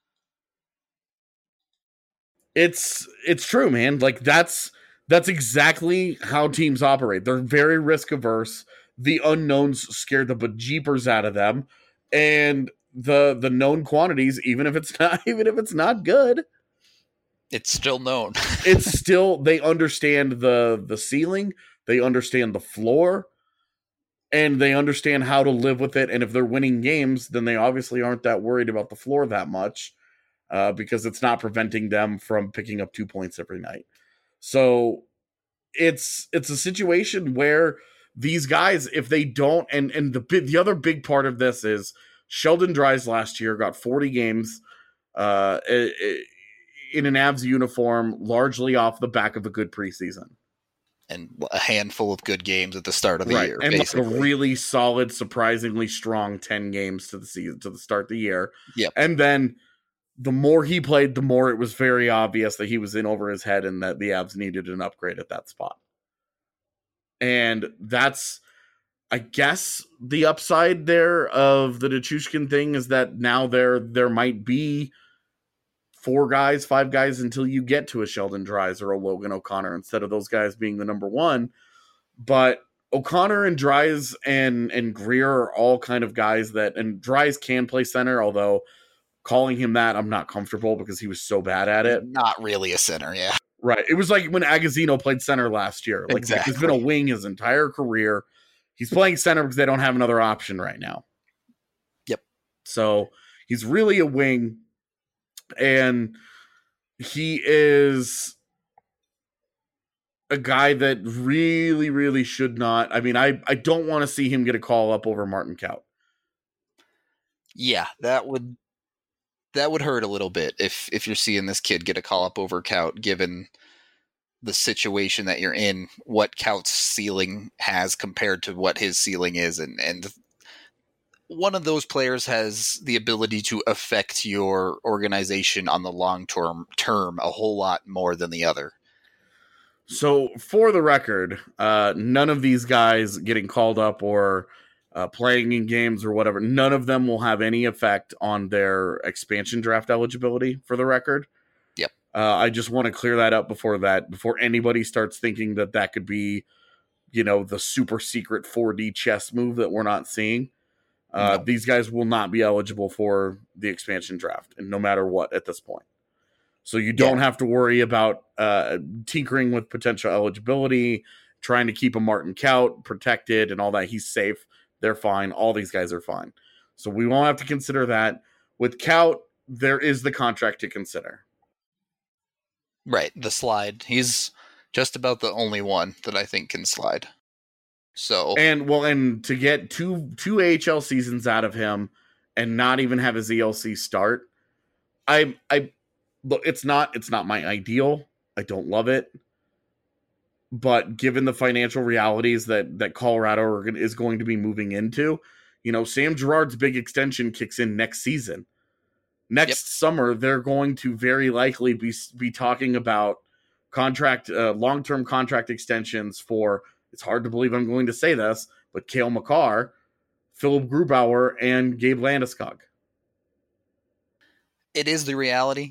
It's it's true, man. Like that's that's exactly how teams operate. They're very risk averse. The unknowns scare the bejeepers out of them, and the the known quantities, even if it's not even if it's not good, it's still known. It's still, they understand the the ceiling, they understand the floor, and they understand how to live with it. And if they're winning games, then they obviously aren't that worried about the floor that much, uh, because it's not preventing them from picking up two points every night. So it's it's a situation where these guys, if they don't, and and the the other big part of this is Sheldon Dries last year got forty games. Uh, it, it, in an Avs uniform, largely off the back of a good preseason. And a handful of good games at the start of the right. year. And basically. Like a really solid, surprisingly strong ten games to the season, to the start of the year. Yep. And then the more he played, the more it was very obvious that he was in over his head and that the Avs needed an upgrade at that spot. And that's, I guess, the upside there of the Nichushkin thing is that now there there might be four guys, five guys until you get to a Sheldon Dries or a Logan O'Connor instead of those guys being the number one. But O'Connor and Dries and, and Greer are all kind of guys that, and Dries can play center, although calling him that, I'm not comfortable because he was so bad at it. Not really a center, yeah. Right. It was like when Agazino played center last year. Like, exactly. He's been a wing his entire career. He's playing center because they don't have another option right now. Yep. So he's really a wing. And he is a guy that really, really should not. I mean, I, I don't want to see him get a call up over Martin Kaut. Yeah, that would that would hurt a little bit if if you're seeing this kid get a call up over Kaut, given the situation that you're in, what Kaut's ceiling has compared to what his ceiling is, and and. One of those players has the ability to affect your organization on the long term term a whole lot more than the other. So for the record, uh, none of these guys getting called up or uh, playing in games or whatever, none of them will have any effect on their expansion draft eligibility, for the record. Yep. Uh, I just want to clear that up before that, before anybody starts thinking that that could be, you know, the super secret four D chess move that we're not seeing. Uh, no. These guys will not be eligible for the expansion draft, and no matter what at this point. So you don't yeah. have to worry about uh, tinkering with potential eligibility, trying to keep a Martin Kaut protected and all that. He's safe. They're fine. All these guys are fine. So we won't have to consider that. With Kaut, there is the contract to consider. Right, the slide. He's just about the only one that I think can slide. So and well, and to get two two A H L seasons out of him and not even have his E L C start, I I look, it's not it's not my ideal. I don't love it, but given the financial realities that that Colorado are, is going to be moving into, you know, Sam Girard's big extension kicks in next season. Next yep. summer, they're going to very likely be be talking about contract uh, long term contract extensions for. It's hard to believe I'm going to say this, but Cale Makar, Philip Grubauer, and Gabe Landeskog. It is the reality.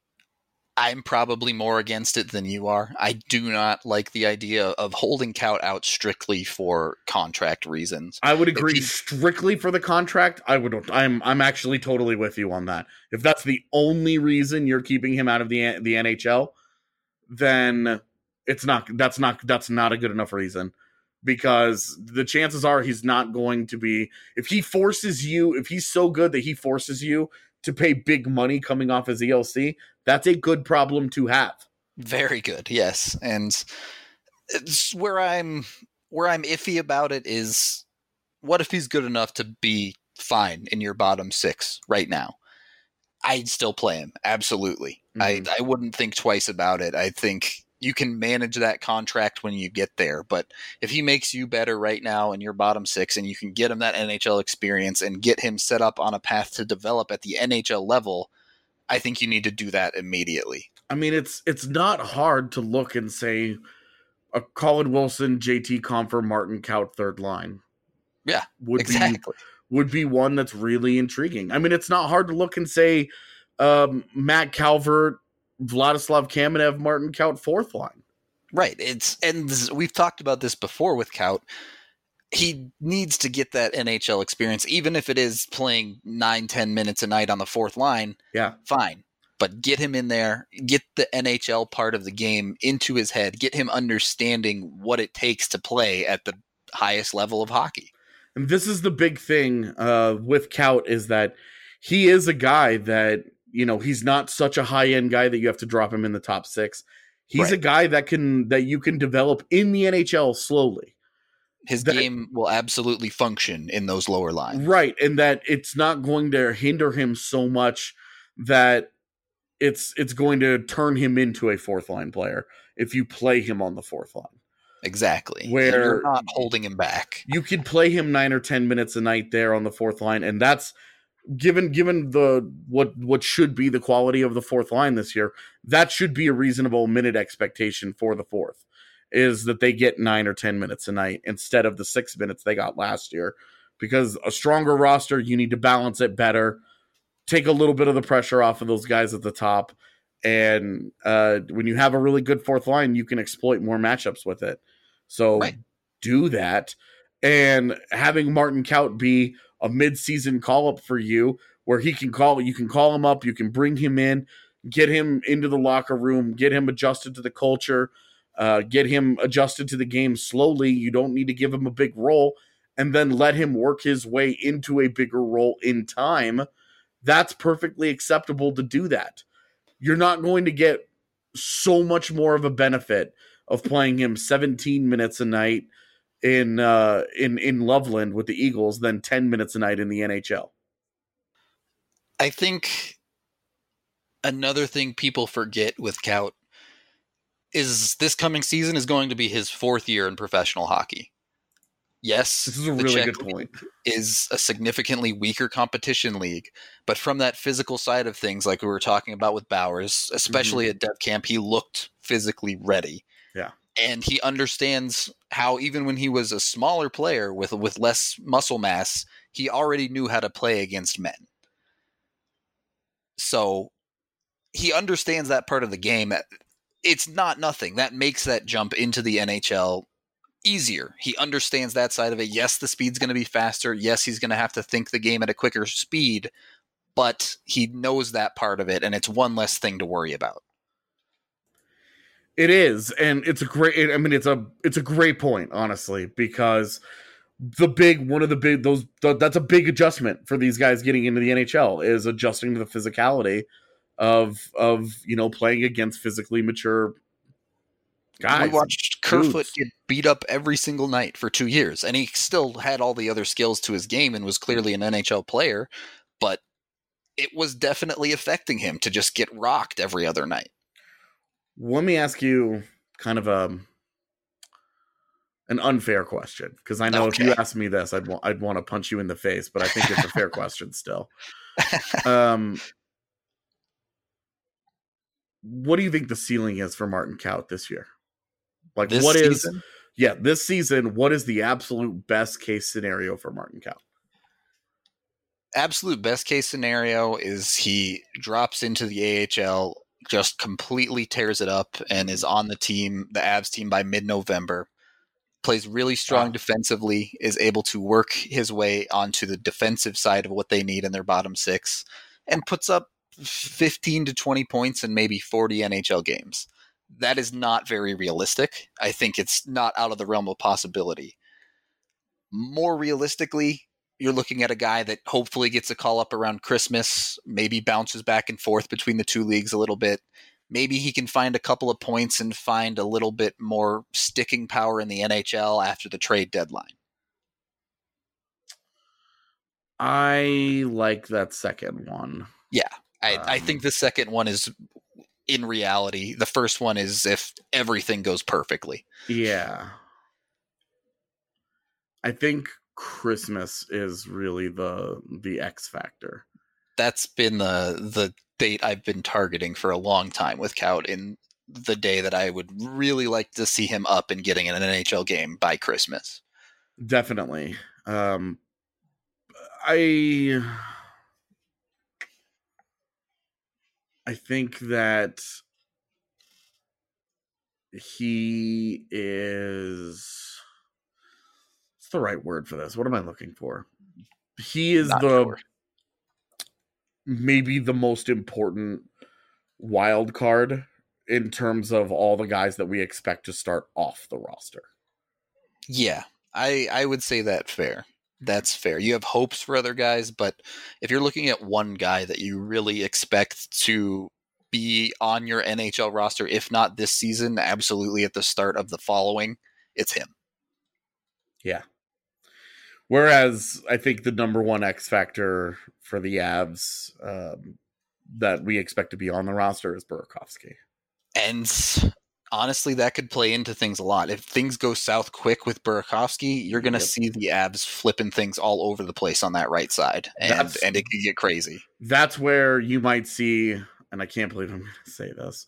I'm probably more against it than you are. I do not like the idea of holding Kaut out strictly for contract reasons. I would agree he, strictly for the contract. I would. I'm. I'm actually totally with you on that. If that's the only reason you're keeping him out of the the N H L, then. It's not, that's not, that's not a good enough reason, because the chances are he's not going to be, if he forces you, if he's so good that he forces you to pay big money coming off his E L C, that's a good problem to have. Very good. Yes. And it's where I'm, where I'm iffy about it is, what if he's good enough to be fine in your bottom six right now? I'd still play him. Absolutely. Mm-hmm. I, I wouldn't think twice about it. I think you can manage that contract when you get there, but if he makes you better right now in your bottom six and you can get him that N H L experience and get him set up on a path to develop at the N H L level, I think you need to do that immediately. I mean, it's it's not hard to look and say a Colin Wilson, J T Compher, Martin Kaut third line. Yeah, would exactly. Be, would be one that's really intriguing. I mean, it's not hard to look and say um, Matt Calvert, Vladislav Kamenev, Martin Kaut, fourth line. Right. It's and this, we've talked about this before with Kaut. He needs to get that N H L experience, even if it is playing nine, ten minutes a night on the fourth line. Yeah, fine. But get him in there, get the N H L part of the game into his head, get him understanding what it takes to play at the highest level of hockey. And this is the big thing uh, with Kaut, is that he is a guy that, you know, he's not such a high-end guy that you have to drop him in the top six. He's right. a guy that can that you can develop in the N H L slowly. His that, game will absolutely function in those lower lines. Right, and that it's not going to hinder him so much that it's it's going to turn him into a fourth-line player if you play him on the fourth line. Exactly. Where you're not holding him back. You could play him nine or ten minutes a night there on the fourth line, and that's Given given the what what should be the quality of the fourth line this year, that should be a reasonable minute expectation for the fourth, is that they get nine or ten minutes a night instead of the six minutes they got last year. Because a stronger roster, you need to balance it better, take a little bit of the pressure off of those guys at the top, and uh, when you have a really good fourth line, you can exploit more matchups with it. So right. do that, and having Martin Kaut be a mid-season call-up for you, where he can call, you can call him up, you can bring him in, get him into the locker room, get him adjusted to the culture, uh, get him adjusted to the game slowly. You don't need to give him a big role, and then let him work his way into a bigger role in time. That's perfectly acceptable to do that. You're not going to get so much more of a benefit of playing him seventeen minutes a night in uh, in in Loveland with the Eagles than ten minutes a night in the N H L. I think another thing people forget with Kaut is this coming season is going to be his fourth year in professional hockey. Yes, this is a really good point. Is a significantly weaker competition league, but from that physical side of things, like we were talking about with Bowers, especially mm-hmm. at Dev Camp, he looked physically ready. Yeah. And he understands how even when he was a smaller player with with less muscle mass, he already knew how to play against men. So he understands that part of the game. It's not nothing. That makes that jump into the N H L easier. He understands that side of it. Yes, the speed's going to be faster. Yes, he's going to have to think the game at a quicker speed, but he knows that part of it, and it's one less thing to worry about. It is, and it's a great. I mean, it's a it's a great point, honestly, because the big one of the big those th- that's a big adjustment for these guys getting into the N H L, is adjusting to the physicality of of you know playing against physically mature guys. We watched Kerfoot dudes. get beat up every single night for two years, and he still had all the other skills to his game and was clearly an N H L player, but it was definitely affecting him to just get rocked every other night. Let me ask you kind of a an unfair question, because I know Okay. if you asked me this, I'd want I'd want to punch you in the face, but I think it's a fair question still. Um, what do you think the ceiling is for Martin Kaut this year? Like, This what is season? yeah this season? What is the absolute best case scenario for Martin Kaut? Absolute best case scenario is he drops into the A H L, just completely tears it up, and is on the team, the Avs team, by mid-November. Plays really strong Wow. defensively, is able to work his way onto the defensive side of what they need in their bottom six, and puts up fifteen to twenty points in maybe forty N H L games. That is not very realistic. I think it's not out of the realm of possibility. More realistically, you're looking at a guy that hopefully gets a call up around Christmas, maybe bounces back and forth between the two leagues a little bit. Maybe he can find a couple of points and find a little bit more sticking power in the N H L after the trade deadline. I like that second one. Yeah, I, I Um, think the second one is in reality. The first one is if everything goes perfectly. Yeah. I think Christmas is really the the X factor. That's been the the date I've been targeting for a long time with Kaut, in the day that I would really like to see him up and getting in an N H L game by Christmas. Definitely. Um, I I think that he is. What's the right word for this? What am I looking for? He is Not the sure. maybe the most important wild card in terms of all the guys that we expect to start off the roster. Yeah, I I would say that fair. That's fair. You have hopes for other guys, but if you're looking at one guy that you really expect to be on your N H L roster, if not this season, absolutely at the start of the following, it's him. Yeah. Whereas I think the number one X factor for the Avs um, that we expect to be on the roster is Burakovsky. And honestly, that could play into things a lot. If things go south quick with Burakovsky, you're going to Yep. see the Avs flipping things all over the place on that right side, and That's- and it could get crazy. That's where you might see, and I can't believe I'm going to say this,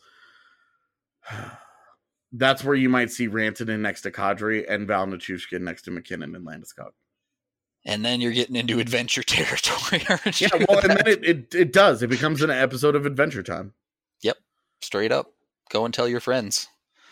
that's where you might see Rantanen next to Kadri and Val Nichushkin next to McKinnon and Landeskog. And then you're getting into adventure territory, aren't you? Yeah, well, and then it, it, it does. It becomes an episode of Adventure Time. Yep, straight up. Go and tell your friends.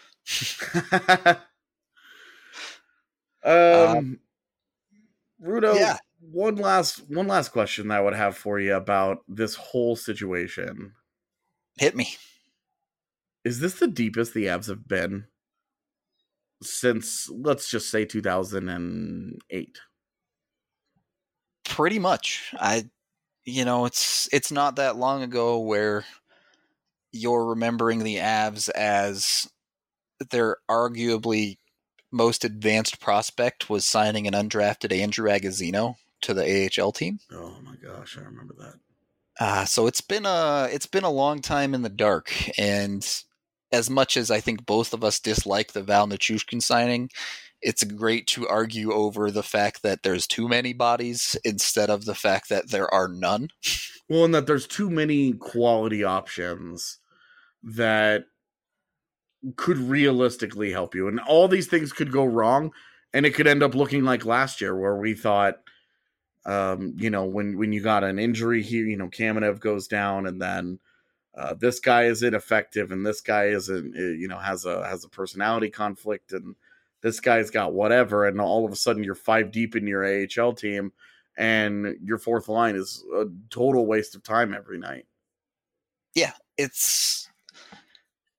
um, Rudo, yeah. one last one last question that I would have for you about this whole situation. Hit me. Is this the deepest the Avs have been since, let's just say, two thousand eight? Pretty much. I, you know, it's it's not that long ago where you're remembering the Avs as their arguably most advanced prospect was signing an undrafted Andrew Agozzino to the A H L team. Oh my gosh, I remember that. Uh, so it's been a it's been a long time in the dark, and as much as I think both of us dislike the Val Nichushkin signing, it's great to argue over the fact that there's too many bodies instead of the fact that there are none. Well, and that there's too many quality options that could realistically help you. And all these things could go wrong, and it could end up looking like last year where we thought, um, you know, when, when you got an injury here, you know, Kamenev goes down, and then uh, this guy is ineffective, and this guy isn't, you know, has a has a personality conflict, and this guy's got whatever, and all of a sudden you're five deep in your A H L team, and your fourth line is a total waste of time every night. Yeah, it's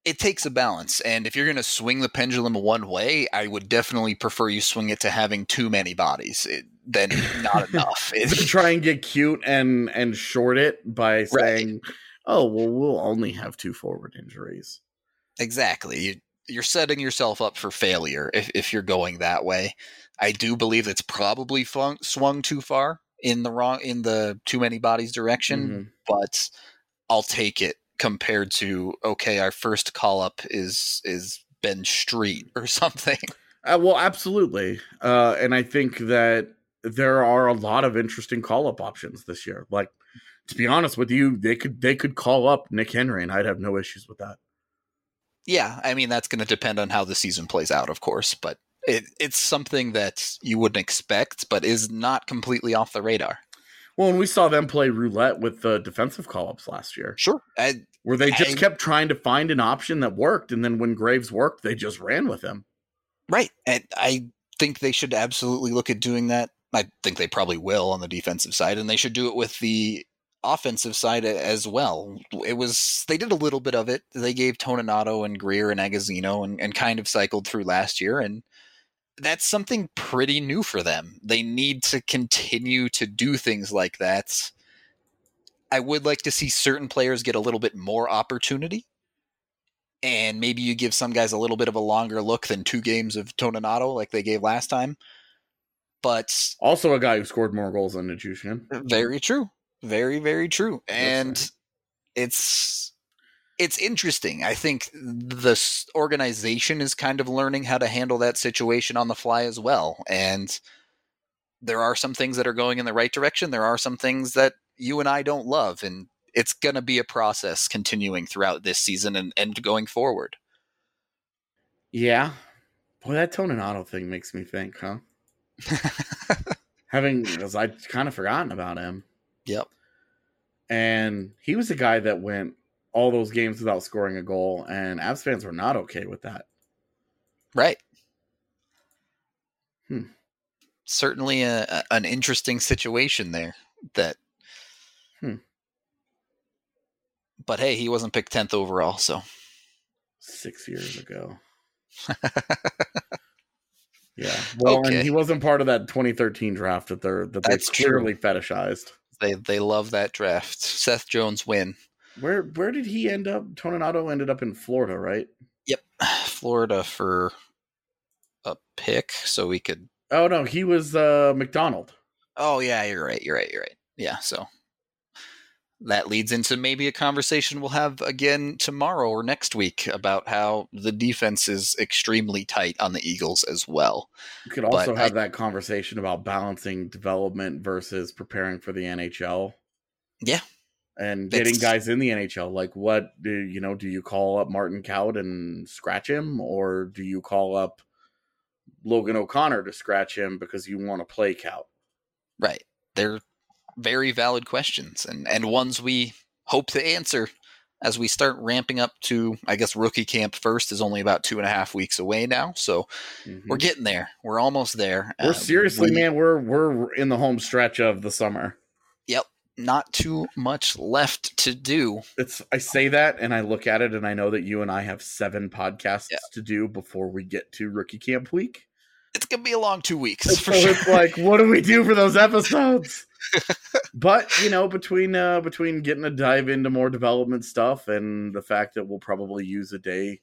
it takes a balance. And if you're going to swing the pendulum one way, I would definitely prefer you swing it to having too many bodies it, than not enough. It, try and get cute and, and short it by saying, right. oh, well, we'll only have two forward injuries. Exactly. You, you're setting yourself up for failure if, if you're going that way. I do believe it's probably flung, swung too far in the wrong, in the too many bodies direction, mm-hmm. but I'll take it compared to, okay, our first call up is, is Ben Street or something. Uh, well, absolutely. Uh, and I think that there are a lot of interesting call up options this year. Like, to be honest with you, they could, they could call up Nick Henry and I'd have no issues with that. Yeah. I mean, that's going to depend on how the season plays out, of course, but It, it's something that you wouldn't expect, but is not completely off the radar. Well, and we saw them play roulette with the defensive call-ups last year. Sure. I, where they just I, kept trying to find an option that worked, and then when Graves worked, they just ran with him. Right. And I think they should absolutely look at doing that. I think they probably will on the defensive side, and they should do it with the offensive side as well. It was, they did a little bit of it. They gave Toninato and Greer and Agazzino and, and kind of cycled through last year, and that's something pretty new for them. They need to continue to do things like that. I would like to see certain players get a little bit more opportunity, and maybe you give some guys a little bit of a longer look than two games of Toninato like they gave last time. But also a guy who scored more goals than Nichushkin. Very true. Very, very true. And right. it's it's interesting. I think the organization is kind of learning how to handle that situation on the fly as well. And there are some things that are going in the right direction. There are some things that you and I don't love. And it's going to be a process continuing throughout this season and, and going forward. Yeah. Boy, that Toninato thing makes me think, huh? Having, because I'd kind of forgotten about him. Yep. And he was a guy that went all those games without scoring a goal, and Avs fans were not okay with that. Right. Hmm. Certainly a, a, an interesting situation there. That. Hmm. But hey, he wasn't picked tenth overall, so. Six years ago. Yeah. Well, okay. And he wasn't part of that twenty thirteen draft that they're that they clearly true. fetishized. They they love that draft. Seth Jones win. Where where did he end up? Toninato ended up in Florida, right? Yep. Florida for a pick, so we could. Oh no, he was uh, McDonald. Oh yeah, you're right. You're right. You're right. Yeah. So that leads into maybe a conversation we'll have again tomorrow or next week about how the defense is extremely tight on the Eagles as well. We could also but have I, that conversation about balancing development versus preparing for the N H L. Yeah. And getting it's, guys in the N H L. Like what do you know, do you call up Martin Kaut and scratch him, or do you call up Logan O'Connor to scratch him because you want to play Kaut? Right. They're very valid questions, and, and ones we hope to answer as we start ramping up to, I guess, rookie camp first is only about two and a half weeks away now. So mm-hmm. we're getting there. We're almost there. We're uh, seriously, we, man, we're, we're in the home stretch of the summer. Yep. Not too much left to do. It's, I say that and I look at it and I know that you and I have seven podcasts yeah. to do before we get to rookie camp week. It's going to be a long two weeks. And for so sure. It's like, what do we do for those episodes? But, you know, between uh, between getting to dive into more development stuff and the fact that we'll probably use a day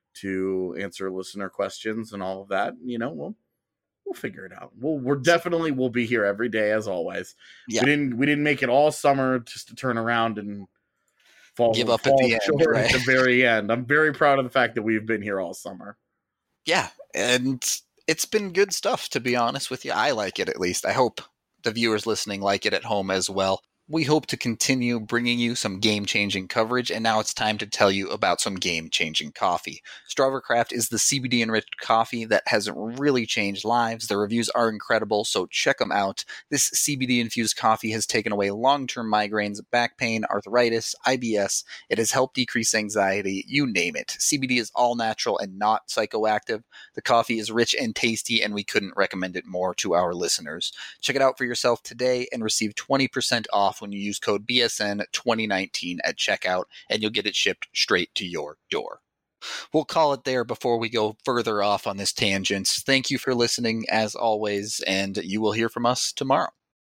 to answer listener questions and all of that, you know, we'll we'll figure it out. We'll we're definitely we'll be here every day as always. Yeah. We didn't we didn't make it all summer just to turn around and fall give up fall at the end, right? At the very end. I'm very proud of the fact that we've been here all summer. Yeah, and it's been good stuff, to be honest with you. I like it, at least. I hope the viewers listening like it at home as well. We hope to continue bringing you some game-changing coverage, and now it's time to tell you about some game-changing coffee. Strawvercraft is the C B D-enriched coffee that has really changed lives. The reviews are incredible, so check them out. This C B D-infused coffee has taken away long-term migraines, back pain, arthritis, I B S. It has helped decrease anxiety, you name it. C B D is all-natural and not psychoactive. The coffee is rich and tasty, and we couldn't recommend it more to our listeners. Check it out for yourself today and receive twenty percent off when you use code B S N twenty nineteen at checkout, and you'll get it shipped straight to your door. we'll call it there before we go further off on this tangent. Thank you for listening, as always, and you will hear from us tomorrow.